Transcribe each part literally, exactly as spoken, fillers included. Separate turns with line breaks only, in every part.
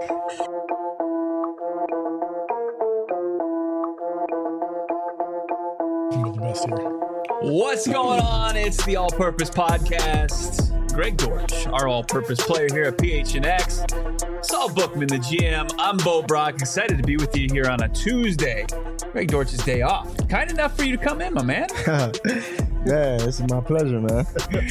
What's going on? It's the All-Purpose Podcast. Greg Dortch, our all-purpose player here at P H N X. Saul Bookman, the G M. I'm Bo Brock. Excited to be with you here on a Tuesday. Greg Dortch's day off. Kind enough for you to come in, my man.
Yeah, this is my pleasure, man.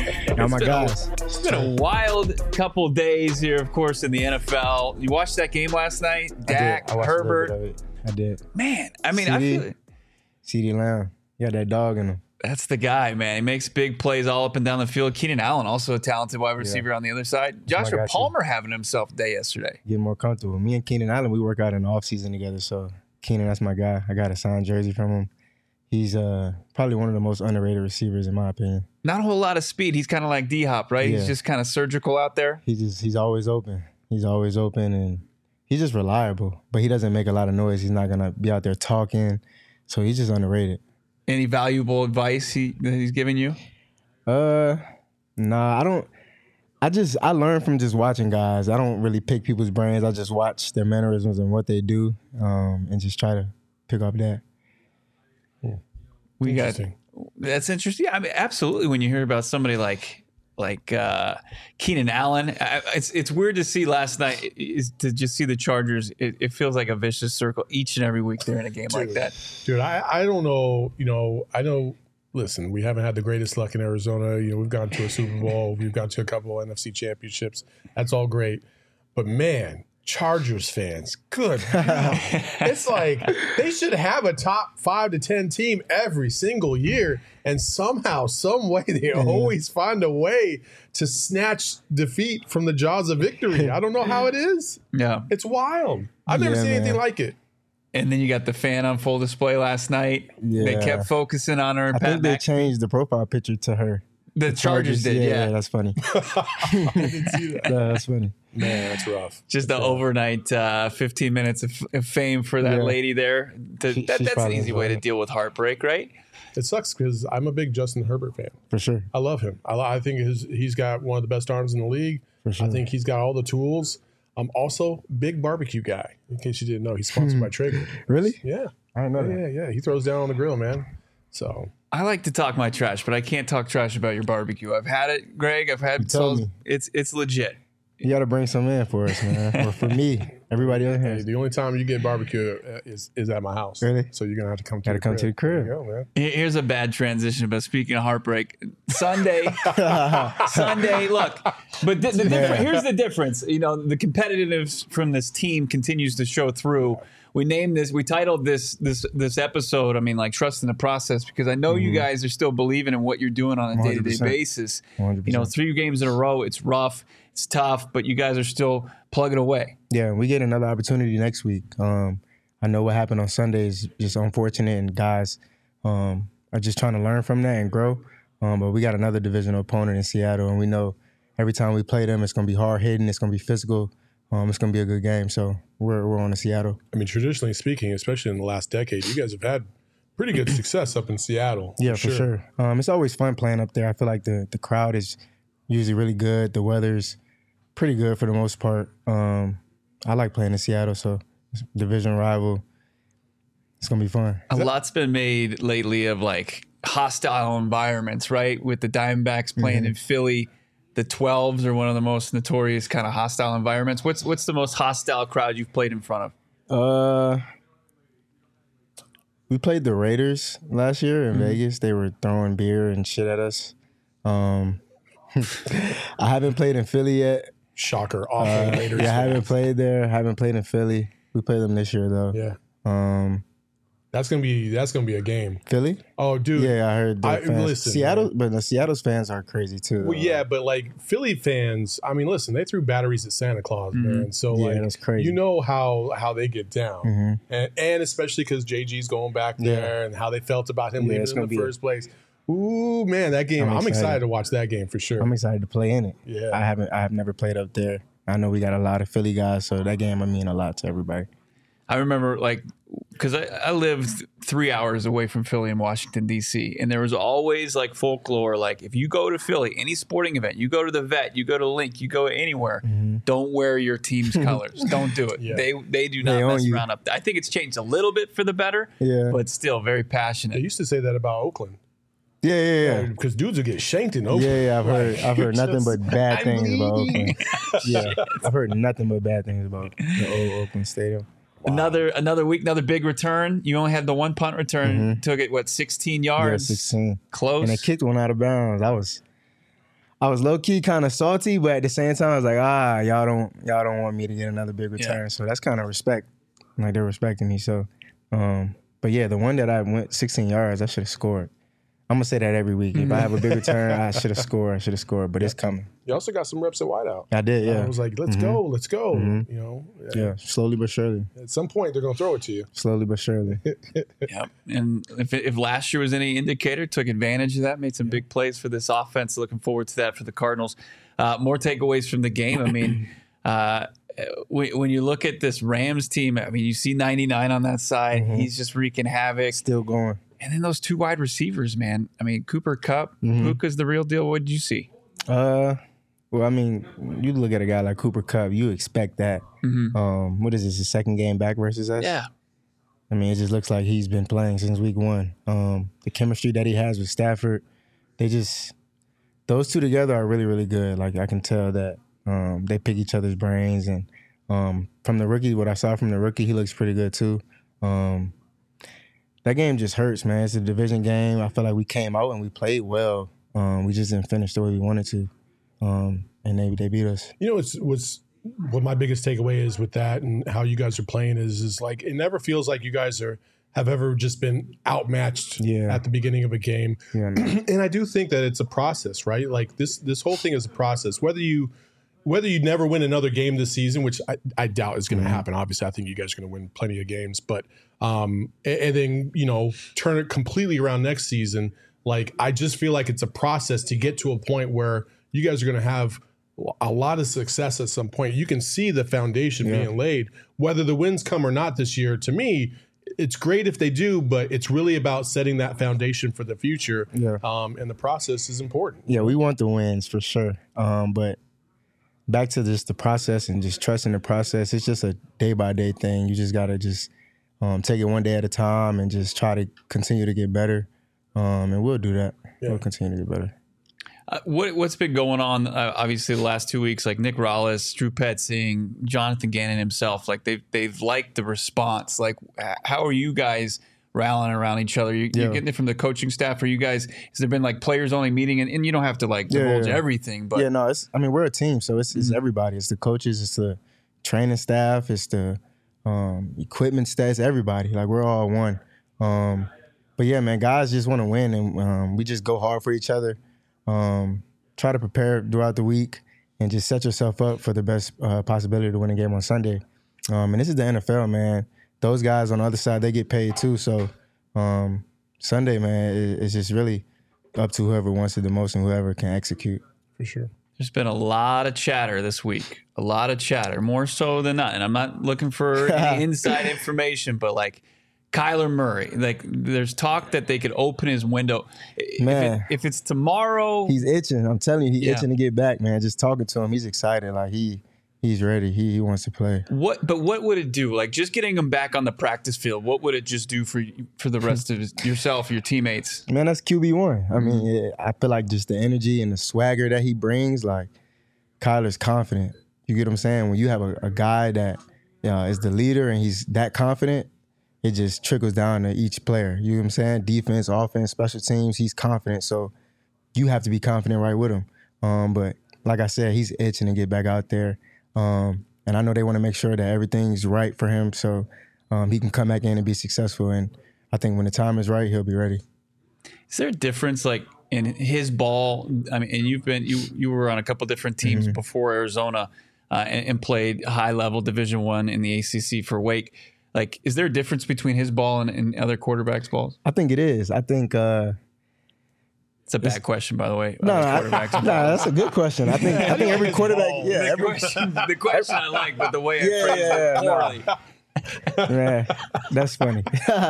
Oh my gosh.
It's been a wild couple days here, of course, in the N F L. You watched that game last night? Dak,
I did. I
Herbert.
Of it. I did.
Man, I mean,
C D,
I feel
CeeDee Lamb. Yeah, that dog in him.
That's the guy, man. He makes big plays all up and down the field. Keenan Allen, also a talented wide receiver yeah. on the other side. Joshua Palmer having himself a day yesterday.
Getting more comfortable. Me and Keenan Allen, we work out in the offseason together. So, Keenan, that's my guy. I got a signed jersey from him. He's uh, probably one of the most underrated receivers, in my opinion.
Not a whole lot of speed. He's kind of like D-Hop, right? Yeah. He's just kind of surgical out there.
He just He's always open. He's always open, and he's just reliable. But he doesn't make a lot of noise. He's not going to be out there talking. So, he's just underrated.
Any valuable advice he that he's giving you?
Uh, nah, I don't. I just I learn from just watching guys. I don't really pick people's brains. I just watch their mannerisms and what they do, um, and just try to pick up that.
Yeah. We got that's interesting. I mean, absolutely. When you hear about somebody like like uh, Keenan Allen, I, it's it's weird to see last night is to just see the Chargers. It, it feels like a vicious circle each and every week they're in a game
dude,
like that.
Dude, I, I don't know. You know, I know. Listen, we haven't had the greatest luck in Arizona. You know, we've gone to a Super Bowl. We've gone to a couple of N F C championships. That's all great. But man, Chargers fans, good God. It's like they should have a top five to ten team every single year, and somehow, some way, they mm-hmm. always find a way to snatch defeat from the jaws of victory. I don't know how it is.
Yeah,
it's wild. I've never
yeah,
seen
man.
anything like it.
And then you got the fan on full display last night.
Yeah.
They kept focusing on her.
I
Pat
think they
Mac-
changed the profile picture to her.
The, the Chargers, Chargers did, yeah.
Yeah, that's funny.
I didn't see that.
Yeah, that's funny.
Man, that's rough.
Just
that's
the
rough.
overnight uh, fifteen minutes of, of fame for that
yeah.
lady there. To,
she,
that, that's an easy way to
it.
deal with heartbreak, right?
It sucks because I'm a big Justin Herbert fan.
For sure.
I love him. I, I think his, he's got one of the best arms in the league.
For sure.
I think he's got all the tools. I'm also big barbecue guy. In case you didn't know, he's sponsored by Traeger.
Really?
Yeah.
I didn't know
yeah,
that.
Yeah, yeah. He throws down on the grill, man. So
I like to talk my trash, but I can't talk trash about your barbecue. I've had it, Greg. I've had
told
Saul's.
me.
It's it's legit.
You got to bring some in for us, man. Or for me, everybody else.
hey, the only time you get barbecue is is at my house.
Really?
So you're gonna have to come.
Got to come
crib.
to the crib.
There you go, man.
Here's a bad transition, but speaking of heartbreak, Sunday, Sunday. Look, but the, the
Yeah.
here's the difference. You know, the competitiveness from this team continues to show through. We named this. We titled this this this episode. I mean, like trust in the process, because I know mm-hmm. you guys are still believing in what you're doing on a day to day basis.
one hundred percent.
You know, three games in a row. It's rough. It's tough, but you guys are still plugging away.
Yeah, we get another opportunity next week. Um, I know what happened on Sunday is just unfortunate, and guys um, are just trying to learn from that and grow. Um, but we got another divisional opponent in Seattle, and we know every time we play them, it's going to be hard hitting, it's going to be physical, um, it's going to be a good game. So we're we're on to Seattle.
I mean, traditionally speaking, especially in the last decade, you guys have had pretty good success up in Seattle.
Yeah,
for
for
sure.
sure. Um, it's always fun playing up there. I feel like the the crowd is usually really good. The weather's pretty good for the most part. Um, I like playing in Seattle, so it's a division rival. It's going to be fun.
A lot's been made lately of like hostile environments, right? With the Diamondbacks playing mm-hmm. in Philly. The twelves are one of the most notorious kind of hostile environments. What's what's the most hostile crowd you've played in front of?
Uh, we played the Raiders last year in
Mm-hmm.
Vegas. They were throwing beer and shit at us. Um, I haven't played in Philly yet.
Shocker. Awful
Uh,
Raiders.
yeah, I haven't
fans.
played there. Haven't played in Philly. We play them this year though.
Yeah.
Um,
That's gonna be that's gonna be a game.
Philly?
Oh, dude.
Yeah, I heard the
I-
fans.
listen,
Seattle,
man.
but the Seattle's fans are crazy too.
Well,
though.
yeah, but like Philly fans, I mean, listen, they threw batteries at Santa Claus,
Mhm.
man. So
Yeah,
like,
that's crazy.
you know how how they get down,
Mhm.
and and especially because J G's going back
Yeah.
there and how they felt about him
Yeah,
leaving
it's
in
gonna
the
be a-
first place. Ooh, man, that game!
I'm
I'm, excited.
excited.
to watch that game for sure.
I'm excited to play in it.
Yeah.
I haven't. I have never played up there. I know we got a lot of Philly guys, so that game I mean a lot to everybody.
I remember like because I, I lived three hours away from Philly in Washington, D C, and there was always like folklore, like if you go to Philly, any sporting event, you go to the Vet, you go to Link, you go anywhere, mm-hmm. don't wear your team's colors. Don't do it. Yeah. They they do not they mess around up. I think it's changed a little bit for the better, yeah. but still very passionate.
They used to say that about Oakland.
Yeah, yeah, yeah.
Because dudes will get shanked in Oakland.
Yeah, yeah. I've heard, I've heard nothing but bad things about Oakland. Yeah, I've heard nothing but bad things about the old Oakland Stadium.
Wow. Another another week, another big return. You only had the one punt return. Mm-hmm. Took it what, sixteen yards?
Yeah, sixteen.
Close.
And they kicked one out of bounds. I was, I was low key kind of salty, but at the same time, I was like, ah, y'all don't, y'all don't want me to get another big return. Yeah. So that's kind of respect. Like they're respecting me. So, um, but yeah, the one that I went sixteen yards, I should have scored. I'm going to say that every week. If I have a big return, I should have scored. I should have scored, but yeah. it's coming.
You also got some reps at wideout.
I did, yeah.
I was like, let's mm-hmm. go, let's go. Mm-hmm. You know,
yeah. yeah, slowly but surely.
At some point, they're going to throw it to you.
Slowly but surely.
Yep. And if, if last year was any indicator, took advantage of that, made some big plays for this offense. Looking forward to that for the Cardinals. Uh, more takeaways from the game. I mean, uh, when you look at this Rams team, I mean, you see ninety-nine on that side. Mm-hmm. He's just wreaking havoc.
Still going.
And then those two wide receivers, man. I mean, Cooper Kupp, mm-hmm. Puka's the real deal. What did you see?
Uh, well, I mean, you look at a guy like Cooper Kupp, you expect that. Mm-hmm. Um, what is this, his second game back versus us?
Yeah.
I mean, it just looks like he's been playing since week one. Um, the chemistry that he has with Stafford, they just, those two together are really, really good. Like, I can tell that um, they pick each other's brains. And um, from the rookie, what I saw from the rookie, he looks pretty good too. Um, That game just hurts, man. It's a division game. I feel like we came out and we played well. Um, we just didn't finish the way we wanted to, um, and they they beat us.
You know, what's, what's what my biggest takeaway is with that and how you guys are playing is is like it never feels like you guys are have ever just been outmatched yeah. at the beginning of a game. Yeah, and I do think that it's a process, right? Like this this whole thing is a process. Whether you Whether you never win another game this season, which I, I doubt is going to mm-hmm. happen. Obviously, I think you guys are going to win plenty of games. But um, and, and then, you know, turn it completely around next season. Like, I just feel like it's a process to get to a point where you guys are going to have a lot of success at some point. You can see the foundation yeah. being laid. Whether the wins come or not this year, to me, it's great if they do, but it's really about setting that foundation for the future.
Yeah.
Um, and the process is important.
Yeah, we want the wins for sure. Um, but back to just the process and just trusting the process. It's just a day-by-day thing. You just got to just um, take it one day at a time and just try to continue to get better. Um, and we'll do that. Yeah. We'll continue to get better.
Uh, what, what's been going on, uh, obviously, the last two weeks, like Nick Rallis, Drew Petzing, Jonathan Gannon himself, like they've, they've liked the response. Like, how are you guys rallying around each other? You, yeah. You're getting it from the coaching staff. Are you guys, has there been like players only meeting? And, and you don't have to like divulge yeah, yeah. everything. But
yeah, no, it's, I mean, we're a team. So it's, it's mm-hmm. everybody. It's the coaches, it's the training staff, it's the um, equipment staff, it's everybody. Like, we're all one. Um, but yeah, man, guys just want to win. And um, we just go hard for each other. Um, try to prepare throughout the week and just set yourself up for the best uh, possibility to win a game on Sunday. Um, and this is the N F L, man. Those guys on the other side, they get paid too. So um, Sunday, man, it, it's just really up to whoever wants it the most and whoever can execute.
For sure.
There's been a lot of chatter this week, a lot of chatter, more so than not. And I'm not looking for any inside information, but like Kyler Murray, like there's talk that they could open his window.
Man,
if, it, if it's tomorrow,
he's itching. I'm telling you, he's yeah. itching to get back, man. Just talking to him, he's excited. Like he, he's ready. He, he wants to play.
What? But what would it do? Like just getting him back on the practice field. What would it just do for for the rest of his, yourself, your teammates?
Man, that's Q B one. I mean, it, I feel like just the energy and the swagger that he brings. Like Kyler's confident. You get what I'm saying? When you have a, a guy that you know, is the leader and he's that confident, it just trickles down to each player. You know what I'm saying? Defense, offense, special teams, he's confident. So you have to be confident right with him. Um, but like I said, he's itching to get back out there. Um, and I know they want to make sure that everything's right for him so um, he can come back in and be successful. And I think when the time is right, he'll be ready.
Is there a difference like in his ball? I mean, and you've been, you, you were on a couple different teams mm-hmm. before Arizona uh, and, and played high level Division One in the A C C for Wake. Like, is there a difference between his ball and, and other quarterbacks' balls?
I think it is. I think uh,
it's a bad it's, question, by the way.
No, no, no, that's a good question. I think I think every quarterback.
Ball.
Yeah,
the,
every,
question, the question I like, but the way I yeah, phrased
yeah,
it poorly.
No. Man, that's funny.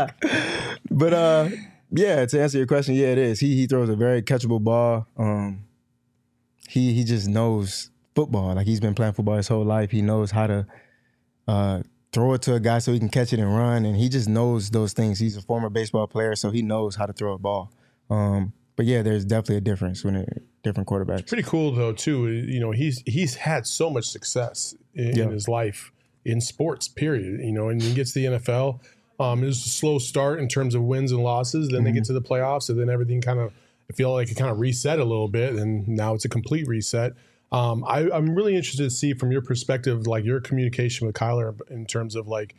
But uh, yeah, to answer your question, yeah, it is. He he throws a very catchable ball. Um, he he just knows football. Like he's been playing football his whole life. He knows how to uh, throw it to a guy so he can catch it and run. And he just knows those things. He's a former baseball player, so he knows how to throw a ball. Um, but yeah, there's definitely a difference when it, different quarterbacks.
Pretty cool though too. You know, he's he's had so much success in,
Yeah.
in his life in sports. Period. You know, and he gets to the N F L. Um, it was a slow start in terms of wins and losses. Then
Mm-hmm.
they get to the playoffs, and then everything kind of I feel like it kind of reset a little bit, and now it's a complete reset. Um, I, I'm really interested to see from your perspective, like your communication with Kyler in terms of like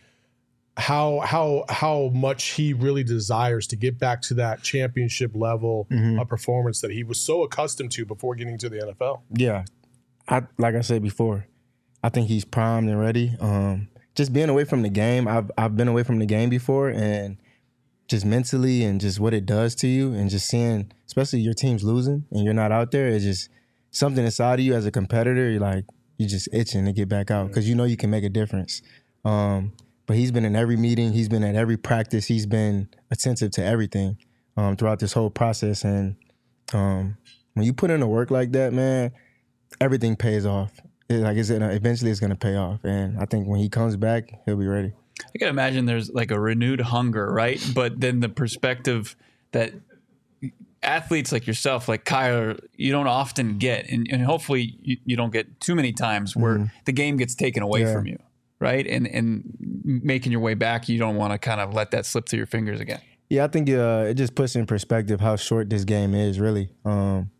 how how how much he really desires to get back to that championship level
Mm-hmm.
of performance that he was so accustomed to before getting to the N F L.
Yeah, I like I said before, I think he's primed and ready. Um, just being away from the game, I've I've been away from the game before, and just mentally and just what it does to you, and just seeing, especially your team's losing and you're not out there, it's just something inside of you as a competitor. You're like you're just itching to get back out because you know you can make a difference. Um, but he's been in every meeting, he's been at every practice, he's been attentive to everything um, throughout this whole process, and um, when you put in the work like that, man, everything pays off. It, like it's gonna, eventually it's going to pay off. And I think when he comes back, he'll be ready.
I can imagine there's like a renewed hunger, right? But then the perspective that athletes like yourself, like Kyler, you don't often get, and, and hopefully you, you don't get too many times where
Mm-hmm.
the game gets taken away
Yeah.
from you, right? And and making your way back, you don't want to kind of let that slip through your fingers again.
Yeah, I think uh, it just puts in perspective how short this game is, really. Um,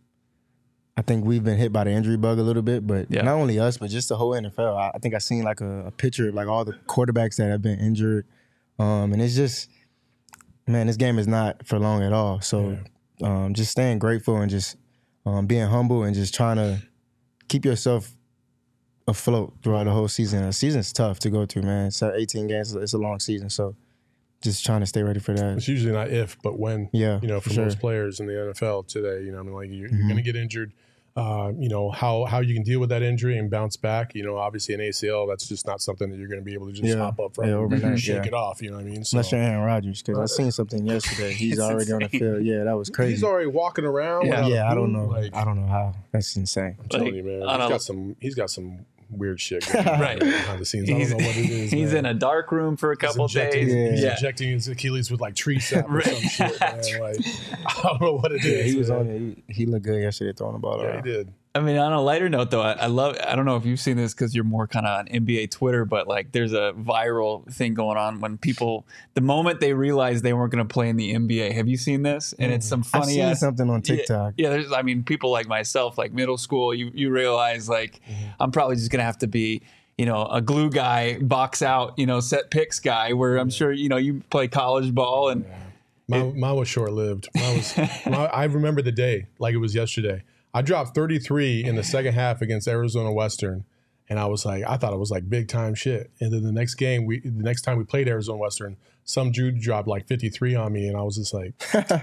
I think we've been hit by the injury bug a little bit, but
Yeah.
not only us, but just the whole N F L. I, I think I seen like a, a picture of like all the quarterbacks that have been injured, um, and it's just, man, this game is not for long at all. So, um, just staying grateful and just um, being humble and just trying to keep yourself afloat throughout the whole season. The season's tough to go through, man. It's eighteen games. It's a long season, so just trying to stay ready for that.
It's usually not if, but when.
Yeah,
You know, for
for sure.
most players in the N F L today, you know, I mean, like you're,
Mm-hmm.
you're going to get injured. Uh, you know how how you can deal with that injury and bounce back. You know, obviously an A C L, that's just not something that you're going to be able to just
Yeah.
hop up from
Yeah,
and
overnight,
shake
yeah.
it off. You know what I mean? So
Unless you're Aaron Rodgers, because I seen something yesterday. He's
It's
already on the
insane.
field. Yeah, that was crazy.
he's already walking around.
Yeah.
without a
yeah, I don't
boot,
know.
Like,
I don't know how. That's insane.
I'm telling
Like,
you, man.
I
He's
don't-
got some. He's got some weird shit going on
Right.
behind the scenes. I
He's,
don't know what it is.
he's
man.
in a dark room for a
He's
couple
injecting,
days.
He's
Yeah.
injecting his Achilles with like tree sap or
Right.
some shit, man. Like, I don't know what it
Yeah,
is.
he was
man.
on it. He, he looked good yesterday throwing the ball
Yeah, he
around.
did.
I mean, on a lighter note, though, I, I love. I don't know if you've seen this because you're more kind of on N B A Twitter, but like, there's a viral thing going on when people, the moment they realized they weren't going to play in the N B A. Have you seen this? And it's some
I've
funny
seen
ass
something on
Yeah,
TikTok.
Yeah, there's. I mean, people like myself, like middle school, you you realize like I'm probably just gonna have to be, you know, a glue guy, box out, you know, set picks guy. Where I'm sure you know you play college ball and.
Mine, mine was short lived. Mine was. my, I remember the day like it was yesterday. I dropped thirty-three in the second half against Arizona Western, and I was like, I thought it was like big time shit. And then the next game, we the next time we played Arizona Western, some dude dropped like fifty-three on me, and I was just like,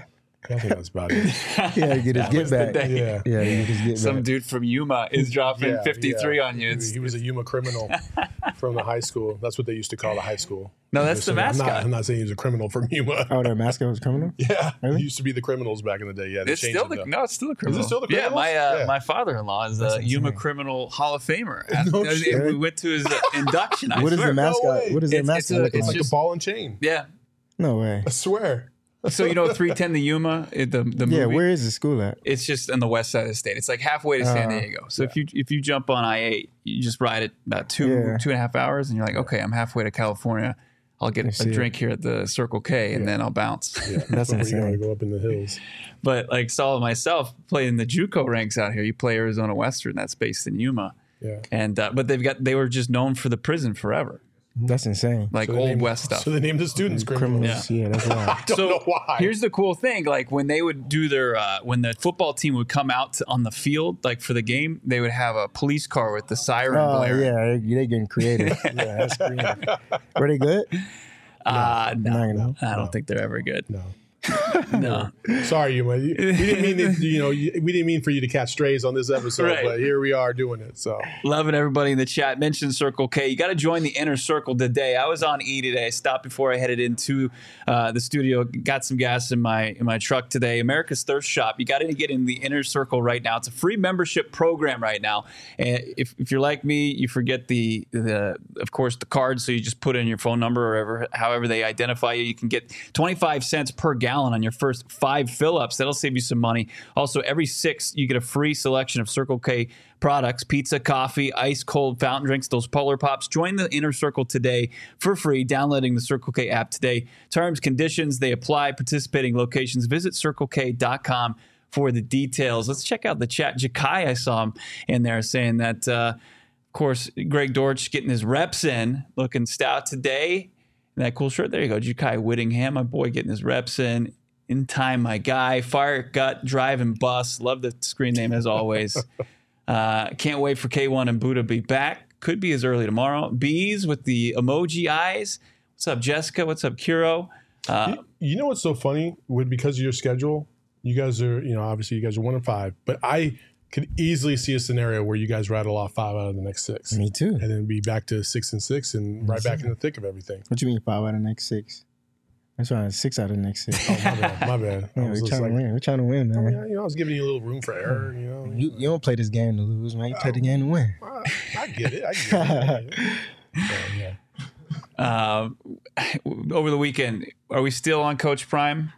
I think that's about it.
Yeah, he get his get
was the
back.
day.
Yeah.
Yeah, he get his get
Some
back.
dude from Yuma is dropping
Yeah,
fifty-three
yeah.
on you.
He,
It's,
he was a Yuma criminal from the high school. That's what they used to call the high school.
No, that's the
I'm not,
mascot.
I'm not saying he was a criminal from Yuma.
Oh, their mascot was criminal?
Yeah,
Really?
he used to be the criminals back in the day. Yeah, they
it's
changed
still
it
the
though.
no, it's still the criminal.
still the
Yeah,
criminals?
my uh,
Yeah.
my father-in-law is a
That's
Yuma
insane.
criminal Hall of Famer.
No
And
shit.
we went to his uh, induction. I
What is
swear.
the mascot?
way.
What is their
It's- it's
mascot
a-
look
it's
It's
like?
like
just-
a ball and chain.
Yeah.
No way.
I swear.
So you know three ten the Yuma, it- the the
Yeah,
movie?
where is the school at?
It's just on the west side of the state. It's like halfway to San
Uh,
Diego. So if you if you jump on I eight, you just ride it about two
Yeah.
two and a half hours, and you're like, okay, I'm halfway to California. I'll get a
see it.
drink here at the Circle K, and then I'll bounce.
Yeah,
That's
before you gotta
insane.
go up in the hills.
But like Saul myself playing the JUCO ranks out here. You play Arizona Western, that's based in Yuma,
Yeah.
and uh, but they've got they were just known for the prison forever,
That's insane.
like
So they
old
named-
West stuff.
So they named the students criminals.
Criminals. Yeah, that's wild.
Don't
So
know why.
here's the cool thing: like when they would do their, uh, when the football team would come out to, on the field, like for the game, they would have a police car with the siren
Oh,
blaring.
yeah, they, they getting creative. Yeah, that's creative. Were they good?
Uh, no,
Not gonna-
I don't think they're ever good.
no.
No.
Sorry, you. We didn't mean to, you know. We didn't mean for you to catch strays on this episode,
Right.
but here we are doing it. So
Loving everybody in the chat. Mention Circle K. You got to join the inner circle today. I was on E today. I stopped before I headed into uh, the studio. Got some gas in my in my truck today. America's Thirst Shop. You got to get in the inner circle right now. It's a free membership program right now. And if, if you're like me, you forget the the of course the card. So you just put in your phone number or whatever, however they identify you. You can get twenty-five cents per gallon on your first five fill-ups. That'll save you some money. Also, every six, you get a free selection of Circle K products, pizza, coffee, ice cold fountain drinks, those Polar Pops. Join the inner circle today for free, downloading the Circle K app today. Terms, conditions, they apply. Participating locations. Visit circle k dot com for the details. Let's check out the chat. Jakai, I saw him in there saying that, uh, of course, Greg Dortch getting his reps in, looking stout today. And that cool shirt. There you go. Jakai Whittingham, my boy, getting his reps in. In time, my guy. Fire Gut, Drive and Bus. Love the screen name as always. uh, can't wait for K one and Buddha to be back. Could be as early tomorrow. Bees with the emoji eyes. What's up, Jessica? What's up, Kiro? Uh,
you, you know what's so funny? With because of your schedule, you guys are, you know, obviously you guys are one and five, but I could easily see a scenario where you guys rattle off five out of the next six.
Me too.
And then be back to six and six and right back in the thick of everything.
What you mean five out of the next six? That's right, six out of the next six.
Oh, my bad. My bad.
Yeah,
I was
we're
just
trying
like,
to win. We're trying to win, man.
yeah, you know, I was giving you a little room for error, you know.
You, you don't play this game to lose, man. You play the game to win.
I, I get it. I get it. Yeah, yeah.
um, over the weekend, are we still on Coach Prime?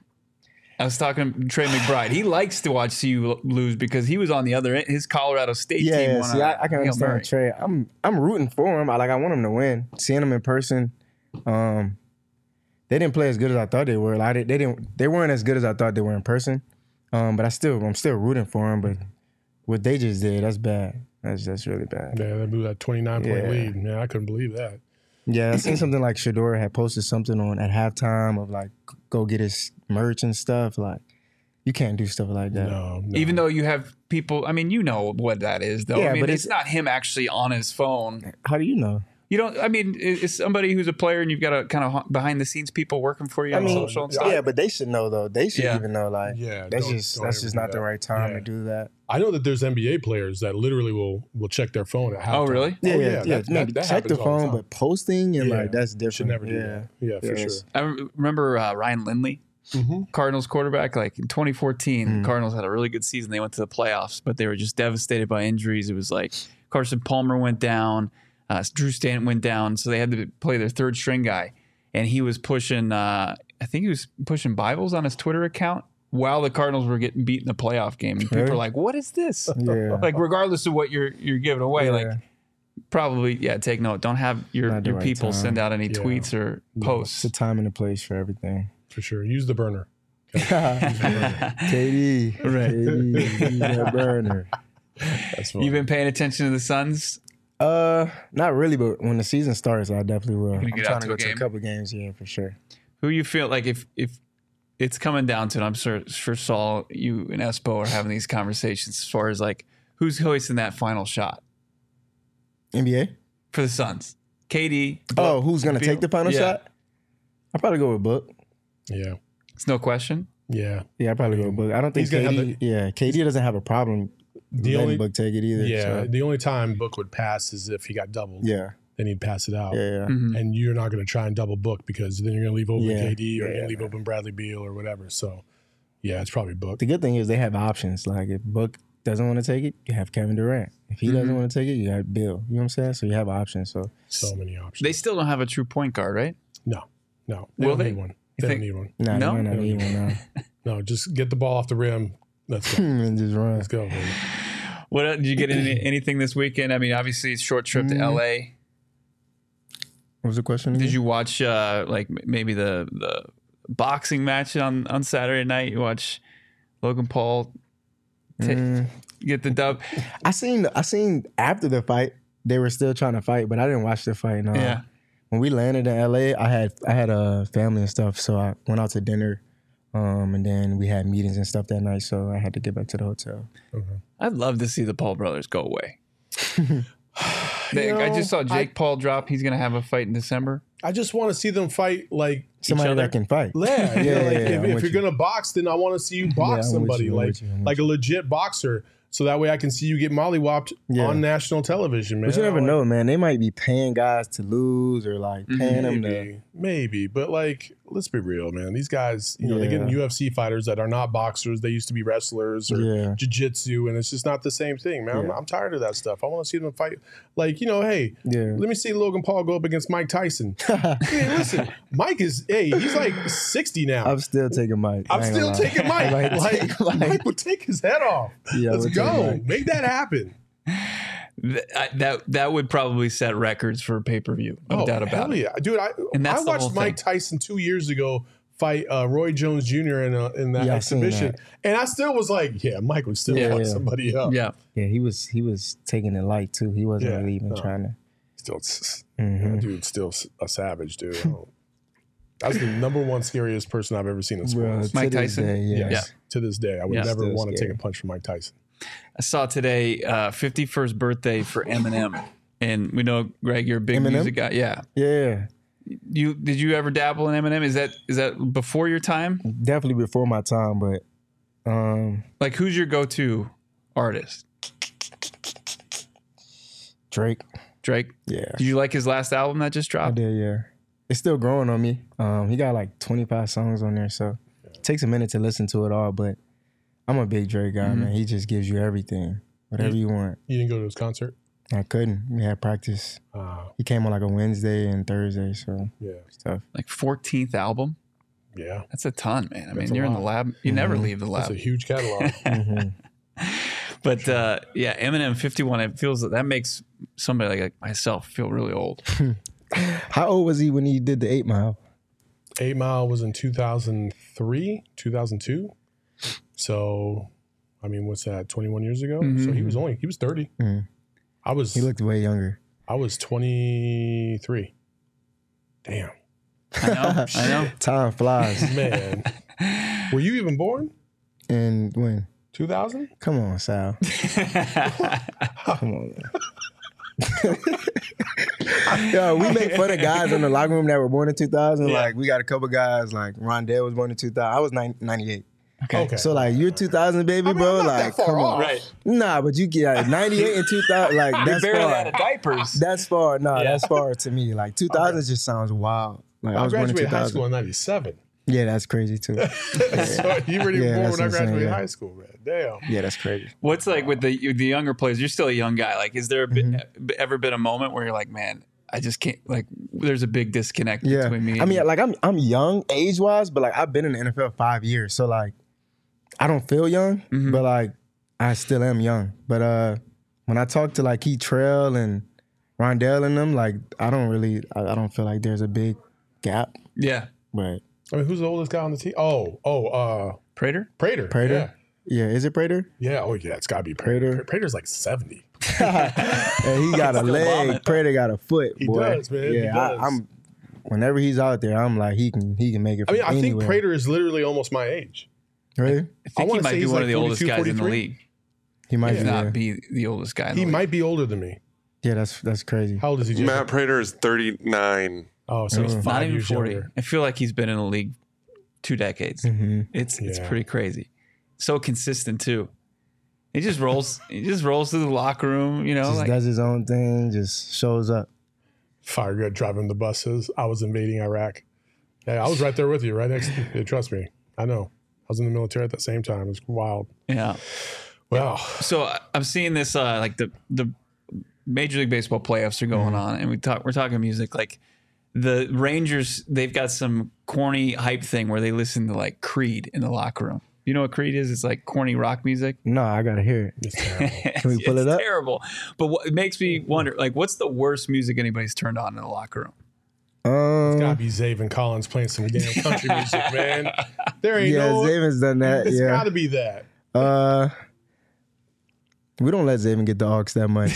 I was talking to Trey McBride. He likes to watch C U lose because he was on the other end. His Colorado State
Yeah,
team
yeah.
won.
See,
a
I, I can
Hail
understand
Mary.
Trey. I'm I'm rooting for him. I like I want him to win. Seeing him in person, um, they didn't play as good as I thought they were. Like they, they didn't. They weren't as good as I thought they were in person. Um, but I still I'm still rooting for him. But what they just did, that's bad. That's that's really bad.
Yeah, they blew that twenty-nine point
Yeah.
lead. Man, I couldn't believe that.
Yeah, I seen something like Shador had posted something on at halftime of like go get his merch and stuff. Like you can't do stuff like that.
No, no.
Even though you have people, I mean, you know what that is, though.
Yeah,
I mean,
but
it's,
it's-
not him actually on his phone.
How do you know?
You don't. I mean, it- it's somebody who's a player, and you've got a kind of behind the scenes people working for you
I
on
mean,
social and stuff.
yeah, but they should know though. They should
Yeah.
even know. Like,
Yeah,
that's
don't-
just
don't
that's
ever
just
do
not the
that.
right time
Yeah.
to do that.
I know that there's N B A players that literally will will check their phone at halftime.
Oh, really?
Yeah,
Oh,
yeah, yeah.
that-
Maybe
that- that
check the
happens all the
phone,
time.
but posting and
Yeah.
like that's different.
Should never do
yeah.
that. Yeah, for
Yes.
I rem- remember uh, Ryan Lindley,
sure.
Cardinals quarterback. Like in twenty fourteen,
Mm.
the Cardinals had a really good season. They went to the playoffs, but they were just devastated by injuries. It was like Carson Palmer went down, uh, Drew Stanton went down, so they had to play their third string guy, and he was pushing. Uh, I think he was pushing Bibles on his Twitter account while the Cardinals were getting beat in the playoff game. And people
Really?
were like, "What is this?"
Yeah.
Like, regardless of what you're you're giving away,
Yeah.
like probably yeah. Take note. Don't have your
Not the
your
right
people
time.
send out any
Yeah.
tweets or
No.
posts.
It's a time and a place for everything.
For sure. Use the burner.
K D,
Right.
K D, use that burner.
That's fine.
You've been paying attention to the Suns.
Uh, not really, but when the season starts, I definitely will. I'm
get
trying
out
to
to a
go to a
game?
couple games, yeah, for sure.
Who you feel like if if it's coming down to it, I'm sure sure Saul, you and Espo are having these conversations as far as like who's hoisting that final shot
N B A.
for the Suns. K D.
Oh, who's gonna
Beal?
take the final
Yeah.
shot? I'll probably go with Book.
Yeah.
It's no question.
Yeah.
Yeah, I'll probably go with Book. I don't think
He's gonna
K D.
have
yeah, K D doesn't have a problem
The
letting
only
Book take it either.
yeah,
so,
the only time Book would pass is if he got doubled.
yeah,
Then he'd pass it out.
yeah, yeah.
Mhm.
And you're not going to try and double Book because then you're going to leave open
Yeah.
K D or
Yeah,
you're going
yeah.
to leave open Bradley Beal or whatever. So, yeah, it's probably Book.
The good thing is they have options. Like if Book doesn't want to take it, you have Kevin Durant. If he
Mhm.
doesn't want to take it, you have Bill. You know what I'm saying? So you have options. So
So many options.
They still don't have a true point guard, right?
no, no. They
Will
don't
they?
need one.
You
They
think-
don't need one.
nah,
No?
no, not
They
even
don't
now.
No, just get the ball off the rim. Let's go.
and just run.
Let's go, baby.
What else- did you get any, anything this weekend? I mean, obviously it's a short trip to
Mm.
L A.
What was the question?
Did
again?
you watch uh, like m- maybe the the boxing match on on Saturday night? You watch Logan Paul ta-
Mm,
get the dub.
I seen. I seen after the fight they were still trying to fight, but I didn't watch the fight. No.
Yeah.
When we landed in L A, I had I had a family and stuff, so I went out to dinner, um, and then we had meetings and stuff that night. So I had to get back to the hotel.
I'd love to see the Paul brothers go away. They,
You know,
I just saw Jake
I,
Paul drop. He's going to have a fight in December.
I just want to see them fight like
Somebody
each other.
that can fight.
Yeah,
Yeah,
yeah,
yeah,
like,
yeah,
if,
I'm
if
with
you're
you.
gonna box, then I want to see you box
I'm with
somebody
you, I'm
like
with you, I'm with
like a legit boxer, so that way I can see you get mollywopped
Yeah.
on national television, man.
But you never
Like,
know, man. They might be paying guys to lose or like paying them to.
Maybe, maybe, but like, let's be real, man. These guys, you know, they're getting
Yeah.
U F C fighters that are not boxers. They used to be wrestlers or
Yeah.
jiu-jitsu, and it's just not the same thing, man. I'm,
Yeah.
I'm tired of that stuff. I want to see them fight. Like, you know, hey,
Yeah.
let me see Logan Paul go up against Mike Tyson. Hey, listen, Mike is, hey, he's like sixty now.
I'm still taking Mike.
I'm
I ain't
still
gonna lie.
taking Mike.
I might
Like,
take Mike.
Mike would take his head off.
Yeah, I
Let's
would take
go.
Mike.
Make that happen.
Th- I- That that would probably set records for pay per view. No doubt about
hell
it.
yeah. Dude, I,
And that's
I
the whole
watched Mike
thing.
Tyson two years ago fight uh, Roy Jones Junior in, a, in that
Yeah, I seen
exhibition.
that.
And I still was like, yeah, Mike would still
Yeah,
fuck
yeah.
somebody up.
Yeah.
Yeah, he was he was taking it light too. He wasn't
Yeah,
really even
no.
trying to.
Still, s-
Mhm.
that dude's still s- a savage, dude. I don't- That's the number one scariest person I've ever seen in sports.
Bruh,
Mike
to this
Tyson?
day, yes.
Yeah.
To this day, I would
Yeah.
never
Still
want to take
scary.
a punch from Mike Tyson.
I saw today uh, fifty-first birthday for Eminem. And we know, Greg, you're a big
Eminem?
music guy. Yeah.
Yeah,
You did you ever dabble in Eminem? Is that is that before your time?
definitely before my time, but um,
Like, who's your go-to artist?
Drake.
Drake.
Yeah,
Did you like his last album that just
I
dropped?
did. Yeah, it's still growing on me. Um, he got like twenty-five songs on there, so it takes a minute to listen to it all. But I'm a big Drake guy,
Mhm.
man. He just gives you everything, whatever you want.
You didn't go to his concert?
I couldn't. We had practice.
Uh,
He came on like a Wednesday and Thursday, so
yeah.
stuff.
Like fourteenth album.
Yeah.
That's a ton, man. I
That's
mean,
a
you're in the
lot.
lab. You never
Mhm.
leave the
That's
lab.
a huge catalog.
Mhm.
But uh, yeah, Eminem fifty-one. It feels that makes somebody like myself feel really old.
How old was he when he did the Eight Mile?
Eight Mile was in two thousand three, two thousand two. So, I mean, what's that? twenty-one years ago.
Mhm.
So he was only he was thirty.
Mm.
I was
He looked way younger.
I was twenty-three. Damn,
I know. I know.
Time flies.
man. Were you even born?
And when?
two thousand?
Come on, Sal. Come on. Man. Yo, we make fun of guys in the locker room that were born in two thousand.
Yeah.
Like, we got a couple guys, like Rondell was born in two thousand. I was nine- ninety-eight.
Okay.
So, like, you're two thousand, baby,
I mean,
bro.
I'm not
Like,
that far
come
off.
on.
Right.
Nah, but you get like, ninety-eight and two thousand. Like, that's
barely
far.
out of diapers.
That's far. Nah,
Yeah.
that's far to me. Like, two thousand just sounds wild. Like, I
I
was born in
graduated high
two thousand.
school in ninety-seven.
Yeah, that's crazy, too.
So you weren't even
Yeah,
born
that's
when I
insane,
graduated
yeah.
high school, man. Damn.
Yeah, that's crazy.
What's like with the the younger players? You're still a young guy. Like, is there a bit,
Mm-hmm.
ever been a moment where you're like, man, I just can't. Like, there's a big disconnect
Yeah,
between me.
I
and
mean,
you?
like I'm I'm young age wise, but like I've been in the N F L five years, so like I don't feel young,
Mhm.
but like I still am young. But uh, when I talk to like Keith Trail and Rondell and them, like I don't really, I, I don't feel like there's a big gap.
yeah,
But
I mean, who's the oldest guy on the team? Oh, oh, uh,
Prater.
Prater.
Prater, yeah, is it Prater?
Yeah. yeah. Oh, yeah. It's got to be Prater.
Prater.
Prater's like seventy.
And he got a
Still
leg.
bombing.
Prater got a foot.
He
boy.
does, man.
Yeah,
He does.
I, I'm. Whenever he's out there, I'm like he can he can make it.
I
From
mean, I think
anywhere.
Prater is literally almost my age.
Really?
I
I
think he
wanna
might
say
be
he's
one
like
of the oldest
forty-two,
guys in the
forty-three.
league.
He might
If
be.
not
Yeah.
be the oldest guy. In
He
the
might be older than me.
yeah, that's that's crazy.
How old is he? Jacob?
Matt Prater is thirty-nine.
Oh, so he's
Mm.
league.
five
Not even
years
forty.
younger.
I feel like he's been in the league two decades.
hmm
It's it's
Yeah.
pretty crazy. So consistent too. He just rolls. he just rolls through the locker room. You know,
Just
like
does his own thing, just shows up.
Fire good driving the buses. I was invading Iraq. Yeah, I was right there with you, right next to you. Trust me. I know. I was in the military at the same time. It was wild.
yeah.
Wow.
So I- I'm seeing this uh, like the the Major League Baseball playoffs are going on, and we talk we're talking music. Like the Rangers, they've got some corny hype thing where they listen to like Creed in the locker room. You know what Creed is? It's like corny rock music.
No, I gotta hear it.
It's terrible.
Can we pull
it's
it up?
Terrible. But what, it makes me wonder, like, what's the worst music anybody's turned on in the locker room?
Um,
Gotta be Zaven Collins playing some damn country music, man. There ain't
yeah,
no.
Zaven's done that.
It's
Yeah.
gotta be that.
Uh, we don't let Zaven get the aux that much.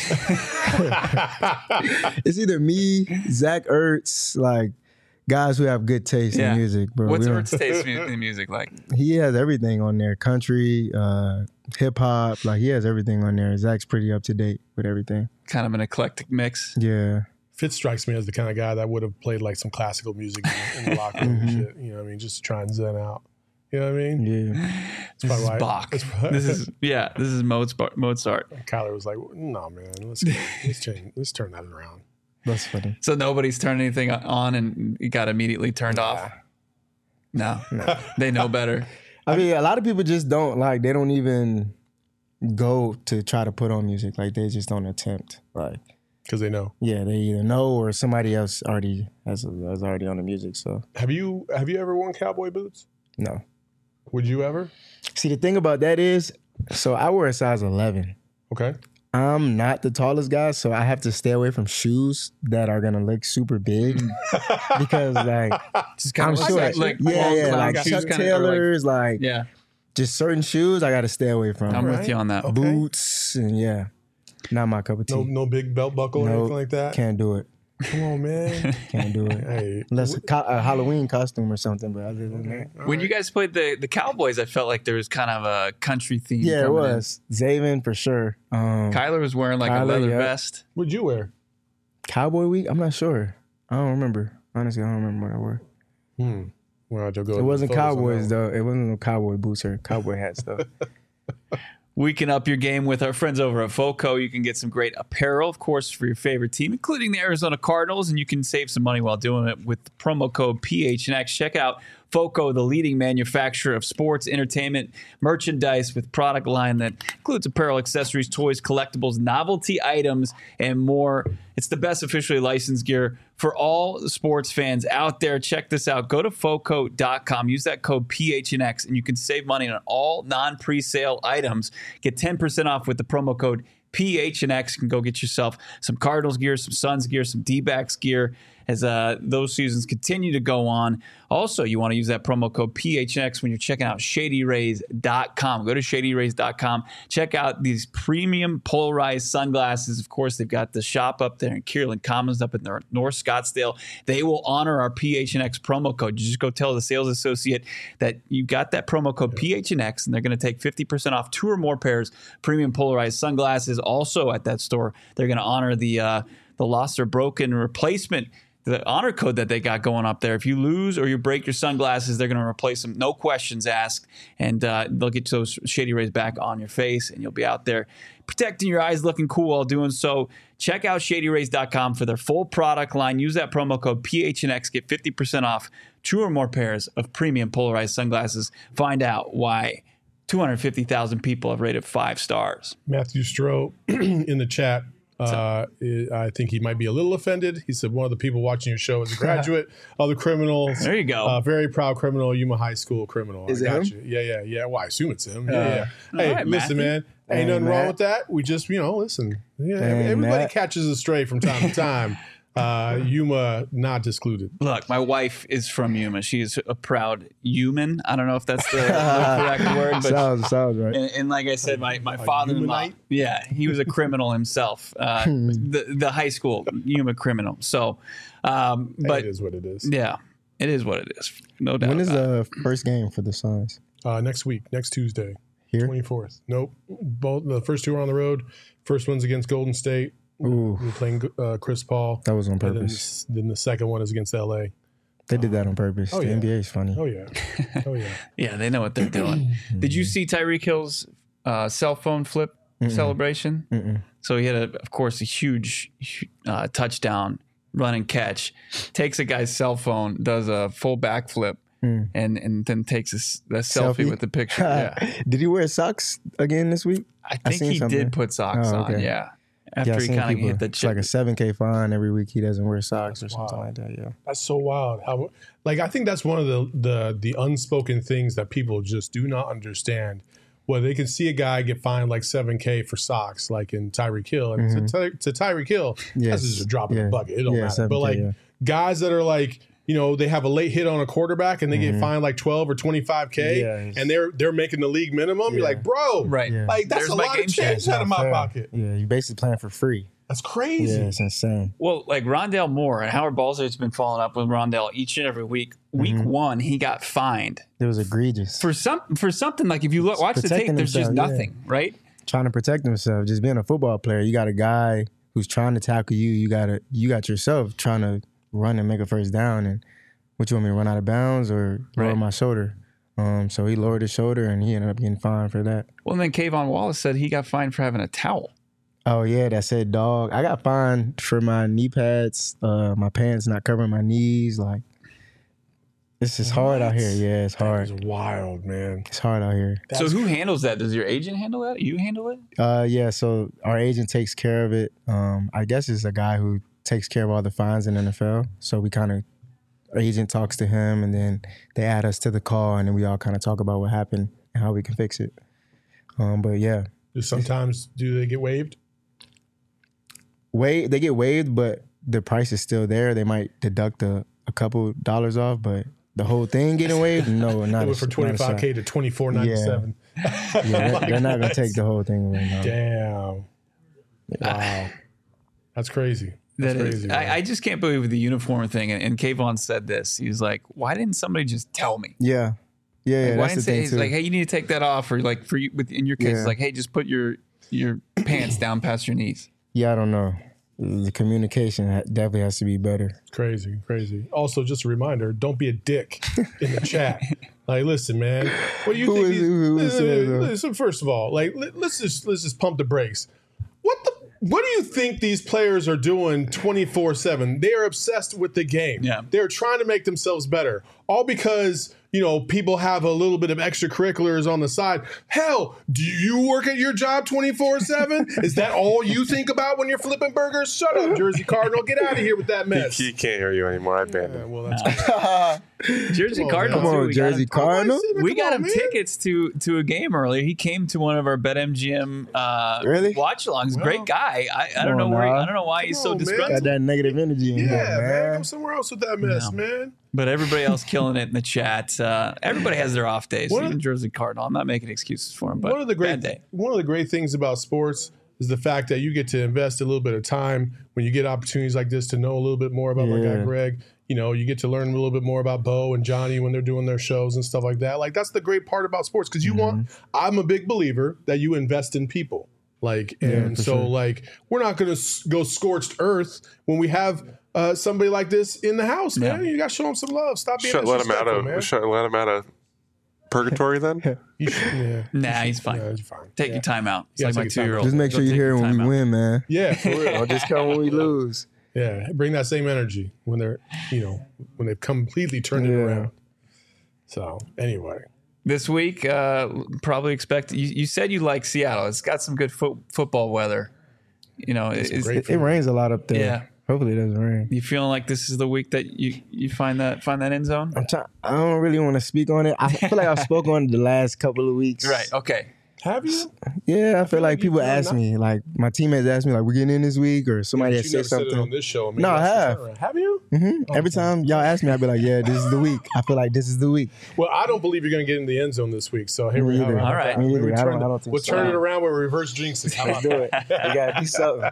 It's either me, Zach Ertz, like guys who have good taste
Yeah.
in music, bro.
What's
We
our
don't-
taste mu- in music like?
He has everything on there: country, uh, hip hop. Like he has everything on there. Zach's pretty up to date with everything.
Kind of an eclectic mix.
Yeah.
Fitz strikes me as the kind of guy that would have played like some classical music in, in the locker room and shit. You know what I mean? Just to try and zen out. You know what I mean?
Yeah.
This is
why-
Bach.
that's why-
This is yeah. This is Mozart. Mozart.
Kyler was like, "No, man, let's go. let's turn let's turn that around."
That's funny.
So nobody's turned anything on, and it got immediately turned off. No, they know better.
I mean, a lot of people just don't like. They don't even go to try to put on music. Like they just don't attempt. Like
Because they know.
yeah, they either know or somebody else already has has already on the music. So
Have you have you ever worn cowboy boots?
no.
Would you ever?
See, the thing about that is, so I wear a size eleven.
Okay.
I'm not the tallest guy, so I have to stay away from shoes that are gonna look super big because, like,
Just
I'm
of
sure,
like, like
yeah,
long
yeah,
cloud
like
shoes
Chuck
kinda, or like-
Taylors, like,
yeah,
just certain shoes I got to stay away from.
I'm
Right.
with you on that.
Okay.
Boots and yeah, not my cup of tea.
No no big belt buckle or
Nope.
anything like that?
Can't do it.
Come on, man.
Can't do it.
Hey.
Unless a, co- a Halloween costume or something, but other than that,
When you guys played the the Cowboys, I felt like there was kind of a country theme.
yeah, it
coming in.
was Zaven for sure. Um,
Kyler was wearing like a
Kyler,
leather
yeah.
vest.
What'd you wear?
Cowboy week. I'm not sure. I don't remember. Honestly, I don't remember what I wore.
Hmm. Well, I'll go
It wasn't Cowboys though. It wasn't no cowboy boots or cowboy hats though.
We can up your game with our friends over at FOCO. You can get some great apparel, of course, for your favorite team, including the Arizona Cardinals, and you can save some money while doing it with the promo code P H N X. Check out FOCO, the leading manufacturer of sports, entertainment, merchandise with product line that includes apparel, accessories, toys, collectibles, novelty items, and more. It's the best officially licensed gear for all the sports fans out there. Check this out. Go to foco dot com. Use that code P H N X, and you can save money on all non-presale items. Get ten percent off with the promo code P H N X. You can go get yourself some Cardinals gear, some Suns gear, some D-backs gear as uh, those seasons continue to go on. Also, you want to use that promo code P H N X when you're checking out shady rays dot com. Go to shady rays dot com. Check out these premium polarized sunglasses. Of course, they've got the shop up there in Kierland Commons up in North Scottsdale. They will honor our P H N X promo code. You just go tell the sales associate that you got that promo code P H N X, and they're going to take fifty percent off two or more pairs premium polarized sunglasses. Also at that store, they're going to honor the uh, the lost or broken replacement, the honor code that they got going up there. If you lose or you break your sunglasses, they're going to replace them. No questions asked. And uh, they'll get those Shady Rays back on your face, and you'll be out there protecting your eyes, looking cool while doing so. Check out shady rays dot com for their full product line. Use that promo code P H N X. Get fifty percent off two or more pairs of premium polarized sunglasses. Find out why two hundred fifty thousand people have rated five stars.
Matthew Stroh in the chat. Uh, I think he might be a little offended. He said one of the people watching your show is a graduate of the criminals.
There you go.
Uh, very proud criminal, Yuma High School criminal.
Is
I
it
got
him?
you. Yeah, yeah, yeah. Well, I assume it's him. Yeah, yeah. Hey,
all right,
listen,
Matthew.
man. Ain't
Hey,
nothing wrong
Matt.
with that. We just, you know, listen. Yeah,
Hey,
everybody
Matt.
catches a stray from time to time. Uh, Yuma not excluded.
Look, my wife is from Yuma. She is a proud human. I don't know if that's the, the correct word, but
sounds sounds right.
And, and like I said, my, my father-in-law,
Humanite?
yeah, he was a criminal himself, uh, the the high school Yuma criminal. So, um,
Hey,
but
it is what it is.
yeah, it is what it is, no doubt.
When is
about it.
the first game for the Suns?
Uh, next week, next Tuesday,
Here?
twenty-fourth. Nope. Both the first two are on the road. First one's against Golden State.
Ooh,
We're playing uh, Chris Paul.
that was on
And then,
purpose.
the, then the second one is against L A.
They did that on purpose.
Oh,
the
yeah.
N B A is funny.
Oh yeah. Oh yeah.
Yeah, they know what they're doing. Did you see Tyreek Hill's uh, cell phone flip celebration?
Mm-mm.
So he had, a, of course, a huge uh, touchdown run and catch. Takes a guy's cell phone, does a full backflip,
Mm.
and and then takes a, s- a selfie,
Selfie?
with the picture. Yeah,
Did he wear socks again this week?
I
I
think
seen
he
something.
did put socks
Oh,
on.
okay.
Yeah,
Yeah,
after
I
he
seen
kind of
people-
hit the
it's
chip.
like a seven K fine every week. He doesn't wear socks or
That's
something
wild.
like that. Yeah.
That's so wild. How like I think that's one of the the the unspoken things that people just do not understand. Well, they can see a guy get fined like seven K for socks, like in Tyreek Hill, and
Mhm.
to, Ty- to Tyreek Hill,
Yes.
that's just a drop in
Yeah.
the bucket. It don't
Yeah,
matter.
seven K,
But like
yeah.
guys that are like, you know, they have a late hit on a quarterback and they get fined like twelve or twenty-five K,
Yeah, it's-
and they're they're making the league minimum. You're
Yeah.
like, bro,
Right.
Yeah.
like that's
There's
a
my
lot
game
of change
changer.
out of my
Fair.
pocket.
Yeah, you basically playing for free.
That's crazy.
Yeah, it's insane.
Well, like Rondale Moore and Howard Balzer's been following up with Rondale each and every week. Week
Mhm.
one, he got fined
It was egregious.
for some for something like if you look watch the tape,
Protecting
there's just
himself, yeah.
nothing, right?
Trying to protect himself, just being a football player. You got a guy who's trying to tackle you. You got to you got yourself trying to run and make a first down. And what you want me to run out of bounds or lower
Right.
my shoulder? Um, so he lowered his shoulder and he ended up getting fined for that.
Well, and then Kayvon Wallace said he got fined for having a towel.
Oh yeah, that said dog. I got fined for my knee pads, uh, my pants not covering my knees. Like it's just hard out here. Yeah, it's
That
hard.
is wild, man.
It's hard out here.
so who handles that? Does your agent handle that? You handle it?
Uh, yeah, so our agent takes care of it. Um, I guess it's a guy who takes care of all the fines in the N F L. So we kind of, our agent talks to him, and then they add us to the call, and then we all kind of talk about what happened and how we can fix it. Um, but yeah,
Do sometimes do they get waived?
wait, they get waived, but the price is still there. They might deduct a, a couple dollars off, but the whole thing getting waived, no, not
It
a,
went from
not a shot.
twenty-five K to twenty-four ninety-seven.
Yeah, they're, they're not gonna take the whole thing away. No.
Damn. Wow. That's crazy. That's
That is-
crazy. man.
I, I just can't believe the uniform thing. And, and Kayvon said this. He's like, "Why didn't somebody just tell me?
Yeah, yeah, yeah.
Like, why
that's
didn't
the
say
thing
he's
too.
like, hey, you need to take that off, or like for you with in your case,
Yeah.
it's like, hey, just put your your pants down past your knees."
Yeah, I don't know. The communication ha- definitely has to be better.
Crazy, crazy. Also, just a reminder: don't be a dick in the chat. Like, listen, man. What do you
Who
think?
is-
these-
who is
listen,
that, though?
listen, first of all, like, let, let's just let's just pump the brakes. What the? What do you think these players are doing twenty-four seven? They are obsessed with the game.
Yeah.
They're trying to make themselves better. All because, you know, people have a little bit of extracurriculars on the side. Hell, do you work at your job twenty-four seven? Is that all you think about when you're flipping burgers? Shut up, Jersey Cardinal. Get out of here with that mess.
He can't hear you anymore. I banned
Yeah,
him.
well, that's
Jersey
Come on,
Cardinal.
man.
too.
Come on,
We got
Jersey
him-
Cardinal.
Come
We
on,
got him
man.
tickets to to a game earlier. He came to one of our BetMGM uh,
Really?
watch-alongs.
Well,
Great guy. I, I don't
come
know
on
where.
now.
I don't know why he's
Come
so
on, man.
disgruntled.
Got that negative energy in
Yeah,
here,
man.
man.
Go somewhere else with that mess,
No.
man.
But everybody else killing it in the chat. Uh, everybody has their off days.
One of-
Even Jersey Cardinal. I'm not making excuses for him, but
one of the great
bad day.
one of the great things about sports is the fact that you get to invest a little bit of time when you get opportunities like this to know a little bit more about my guy
Yeah.
Greg. You know, you get to learn a little bit more about Bo and Johnny when they're doing their shows and stuff like that. Like, that's the great part about sports because you want. I'm a big believer that you invest in people. Like, and
for
so
sure.
like we're not going to go scorched earth when we have uh, somebody like this in the house, man.
Yeah.
You got to show them some love. Stop being
Should let him out
disrespectful, man.
of. Should let him out of purgatory then.
You should, yeah.
Nah, he's fine.
Yeah, he's fine.
Take
yeah.
your time out. It's
Yeah,
like my
take your time
two-year-old.
Just make
Go
sure you're
take
here
your
when
time
we
out.
win, man.
Yeah, for real.
Don't just come when we lose.
Yeah, bring that same energy when they're, you know, when they've completely turned it
Yeah.
around. So anyway,
This week, uh, probably expect. You, you said you like Seattle. It's got some good fo- football weather. You know, is,
great
It, it rains a lot up there.
Yeah.
Hopefully it doesn't rain.
you feeling like this is the week that you, you find that find that end zone?
I'm trying. I don't really want to speak on it. I feel like I've spoken on it the last couple of weeks.
Right. Okay.
have you?
Yeah, I feel like,
like you
people
do
ask
not-
me, like my teammates ask me, like we're getting in this week, or somebody
you
has said
never said it on
something.
this show. I mean,
No, I
that's the
have.
turnaround. Have you?
hmm Every time y'all ask me, I'll be like, yeah, this is the week. I feel like this is the week.
Well, I don't believe you're going to get in the end zone this week. So here
Me
we are.
either.
All right.
Me
We
either. I
turn
don't,
it-
I don't think
We'll
so.
turn it around with reverse jinxes. How
Let's
about
do it. We gotta do something.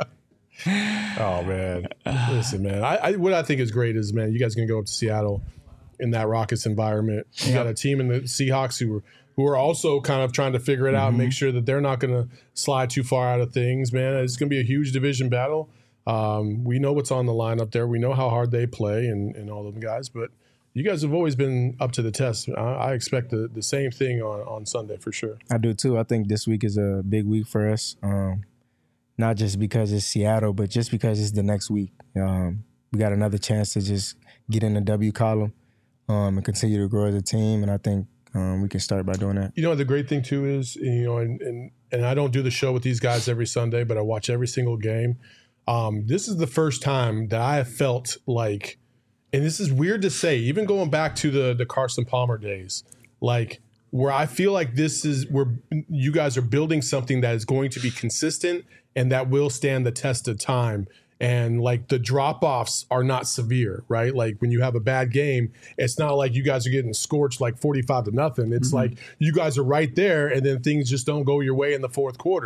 Oh man, listen, man. I, I what I think is great is, man, you guys gonna go up to Seattle in that Rockets environment. You got a team in the Seahawks who are who are also kind of trying to figure it out and make sure that they're not gonna slide too far out of things. Man, it's gonna be a huge division battle. Um, we know what's on the line up there. We know how hard they play and and all them guys, but. You guys have always been up to the test. I, I expect the, the same thing on, on Sunday for sure.
I do too. I think this week is a big week for us. Um, not just because it's Seattle, but just because it's the next week. Um, we got another chance to just get in the W column um, and continue to grow as a team. And I think um, we can start by doing that.
You know, the great thing too is, you know, and, and, and I don't do the show with these guys every Sunday, but I watch every single game. Um, this is the first time that I have felt like, and this is weird to say, even going back to the the Carson Palmer days, like where I feel like this is where you guys are building something that is going to be consistent and that will stand the test of time. And like the drop offs are not severe, right? Like when you have a bad game, it's not like you guys are getting scorched like forty-five to nothing. It's like you guys are right there and then things just don't go your way in the fourth quarter.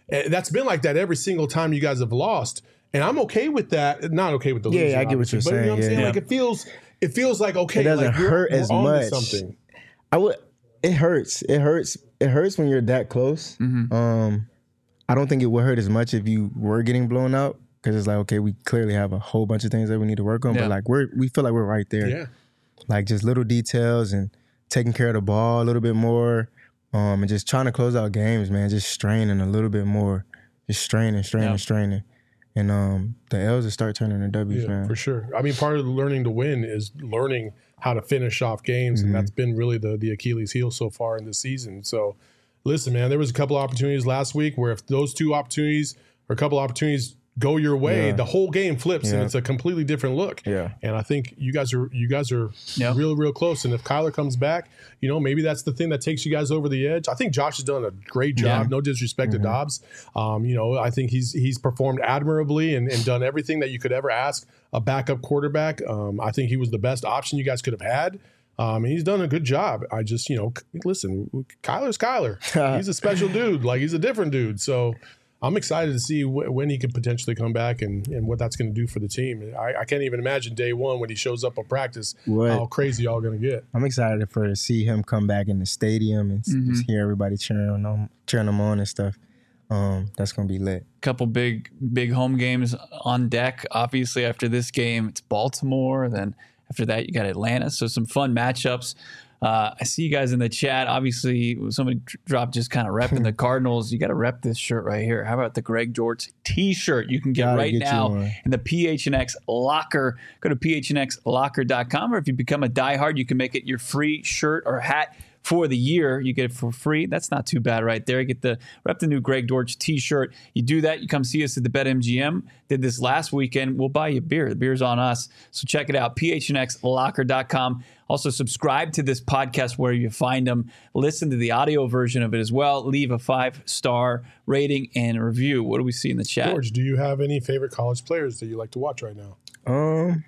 And that's been like that every single time you guys have lost. And I'm okay with that. Not okay with the
Yeah,
losing,
I get what you're
but you know
saying,
what I'm
yeah.
saying?
Yeah.
Like it feels, it feels like okay.
It doesn't
like we're,
hurt
we're
as
on to
much.
Something.
I would. It hurts. It hurts. It hurts when you're that close.
Mm-hmm.
Um, I don't think it would hurt as much if you were getting blown out because it's like okay, we clearly have a whole bunch of things that we need to work on.
Yeah.
But like we're we feel like we're right there.
Yeah.
Like just little details and taking care of the ball a little bit more, um, and just trying to close out games, man. Just straining a little bit more, just straining, straining,
Yeah.
straining, and um, the L's will start turning to W's,
Yeah,
man.
for sure. I mean, part of learning to win is learning how to finish off games,
Mm-hmm.
and that's been really the the Achilles heel so far in this season. So, listen, man, there was a couple opportunities last week where if those two opportunities or a couple opportunities go your way,
Yeah.
the whole game flips and
Yeah.
it's a completely different look.
Yeah.
And I think you guys are you guys are
Yeah.
real real close. And if Kyler comes back, you know, maybe that's the thing that takes you guys over the edge. I think Josh has done a great job.
Yeah.
No disrespect
Mm-hmm.
to Dobbs. Um, you know, I think he's he's performed admirably and, and done everything that you could ever ask a backup quarterback. Um, I think he was the best option you guys could have had. Um, and he's done a good job. I just, you know, c- listen, Kyler's Kyler. He's a special dude. Like, he's a different dude. So I'm excited to see wh- when he could potentially come back and, and what that's going to do for the team. I, I can't even imagine day one when he shows up on practice
What?
how crazy y'all going to get.
I'm excited for to see him come back in the stadium and s-
Mm-hmm.
just hear everybody cheering him, cheering him on and stuff. Um, that's gonna be lit.
Couple big big home games on deck. Obviously, after this game, it's Baltimore. Then after that, you got Atlanta. So some fun matchups. Uh, I see you guys in the chat. Obviously, somebody dr- dropped just kind of repping the Cardinals. You got to rep this shirt right here. How about the Greg George T-shirt? You can get
Gotta
right
get you
now
one.
in the P H N X locker. Go to P H N X locker dot com, or if you become a diehard, you can make it your free shirt or hat for the year. You get it for free. That's not too bad right there. You get the rep the new Greg Dortch t-shirt. You do that, you come see us at the BetMGM. Did this last weekend. We'll buy you a beer. The beer's on us. So check it out, P H N X locker dot com. Also subscribe to this podcast where you find them. Listen to the audio version of it as well. Leave a five-star rating and review. What do we see in the chat?
George, do you have any favorite college players that you like to watch right now?
Um,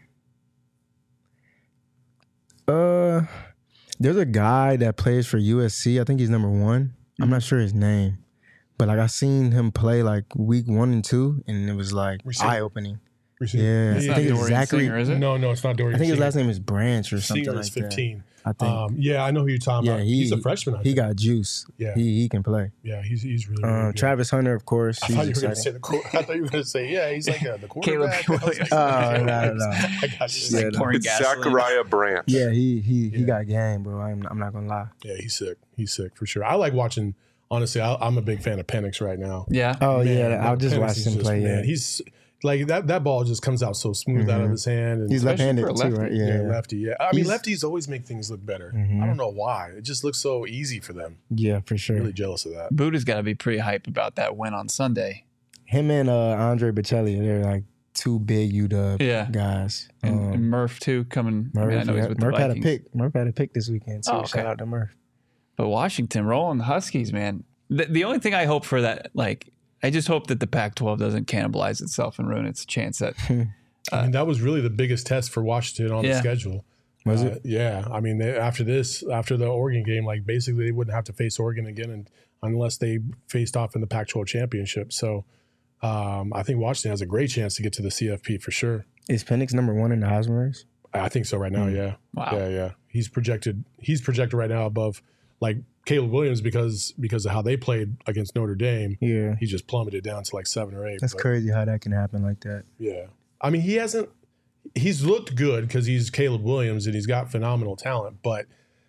uh, there's a guy that plays for U S C. I think he's number one. I'm not sure his name, but like I seen him play like week one and two, and it was like
Receiver.
eye opening.
Receiver.
Yeah,
It's
I
not
think it's
Dorian
Zachary.
Singer, is it?
No, no, it's not Dorian.
I think his
Singer.
last name is Branch or something
Singer
like
is fifteen.
that. I think.
Um, yeah, I know who you're talking
yeah,
about.
he,
he's a freshman. I
He
think.
got juice.
Yeah.
he he can play.
yeah, he's he's really, really
Um,
good.
Travis Hunter, of course.
I
He's
thought you were going to
exciting.
say the. Qu- I thought you were going to say yeah. He's like uh, the
Caleb
quarterback. I was
Williams.
like,
Oh, no, no.
I got you.
Yeah,
Like
no.
pouring
It's
gasoline.
Zachariah Branch.
Yeah, he he he
Yeah.
got game, bro. I'm I'm not gonna lie.
Yeah, he's sick. He's sick for sure. I like watching. Honestly, I, I'm a big fan of Penix right now.
Yeah.
Oh
Man,
yeah, I'll just
Penix
watch
is
him
just-
play.
man,
Yeah,
he's like that. That ball just comes out so smooth out of
Mhm.
his hand. And
he's
Especially
left-handed
for a
too,
lefty.
right?
yeah,
Yeah, yeah,
lefty. Yeah, I mean
He's-
lefties always make things look better.
Mhm.
I don't know why. It just looks so easy for them.
yeah, for sure.
Really jealous of that.
Buddha's got to be pretty hype about that win on Sunday.
Him and uh, Andre Bocelli, they're like two big U W
Yeah.
guys.
And,
Um,
and Murph, too, coming. I,
Murph,
mean, I know he's
yeah.
with
Murph
the
had a
Vikings.
pick. Murph had a pick this weekend too.
Oh, okay.
Shout out to Murph.
But Washington rolling the Huskies, man. The, the only thing I hope for that, like, I just hope that the Pac twelve doesn't cannibalize itself and ruin its chance that.
I mean, that was really the biggest test for Washington on
Yeah.
the schedule.
Was
Uh,
it?
Yeah. I mean, they, after this, after the Oregon game, like basically they wouldn't have to face Oregon again, and unless they faced off in the Pac twelve championship. So um, I think Washington has a great chance to get to the C F P for sure.
Is Penix number one in the Heisman race?
I think so right now.
Mm.
Yeah.
Wow.
Yeah. Yeah. He's projected. He's projected right now above like Caleb Williams because because of how they played against Notre Dame.
Yeah,
He just plummeted down to like seven or eight.
that's
but-
crazy how that can happen like that.
Yeah. I mean, he hasn't, he's looked good because he's Caleb Williams and he's got phenomenal talent, but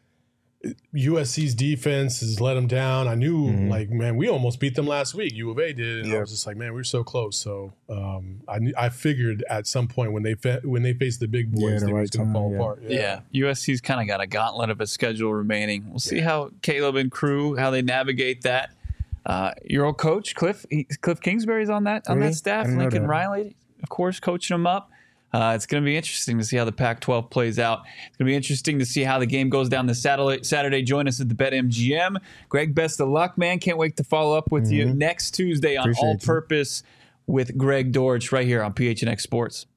U S C's defense has let him down. I knew,
Mhm.
like, man, we almost beat them last week. U of A did. And I
Yeah.
was just like, man, we were so close. So um, I knew, I figured at some point when they fe- when they faced the big boys,
Yeah, the
they
right
was going to
time,
fall
yeah.
apart.
Yeah. U S C's kind of got a gauntlet of a schedule remaining. We'll see how Caleb and crew, how they navigate that. Uh, your old coach, Cliff he, Cliff Kingsbury's on that on
Really?
that staff.
I didn't know
Lincoln
that.
Riley, of course, coaching them up. Uh, it's going to be interesting to see how the Pac twelve plays out. It's going to be interesting to see how the game goes down this Saturday. Saturday. Join us at the BetMGM. Greg, best of luck, man. Can't wait to follow up with you next Tuesday on
Appreciate
All
you.
Purpose with Greg Dortch right here on P H N X Sports.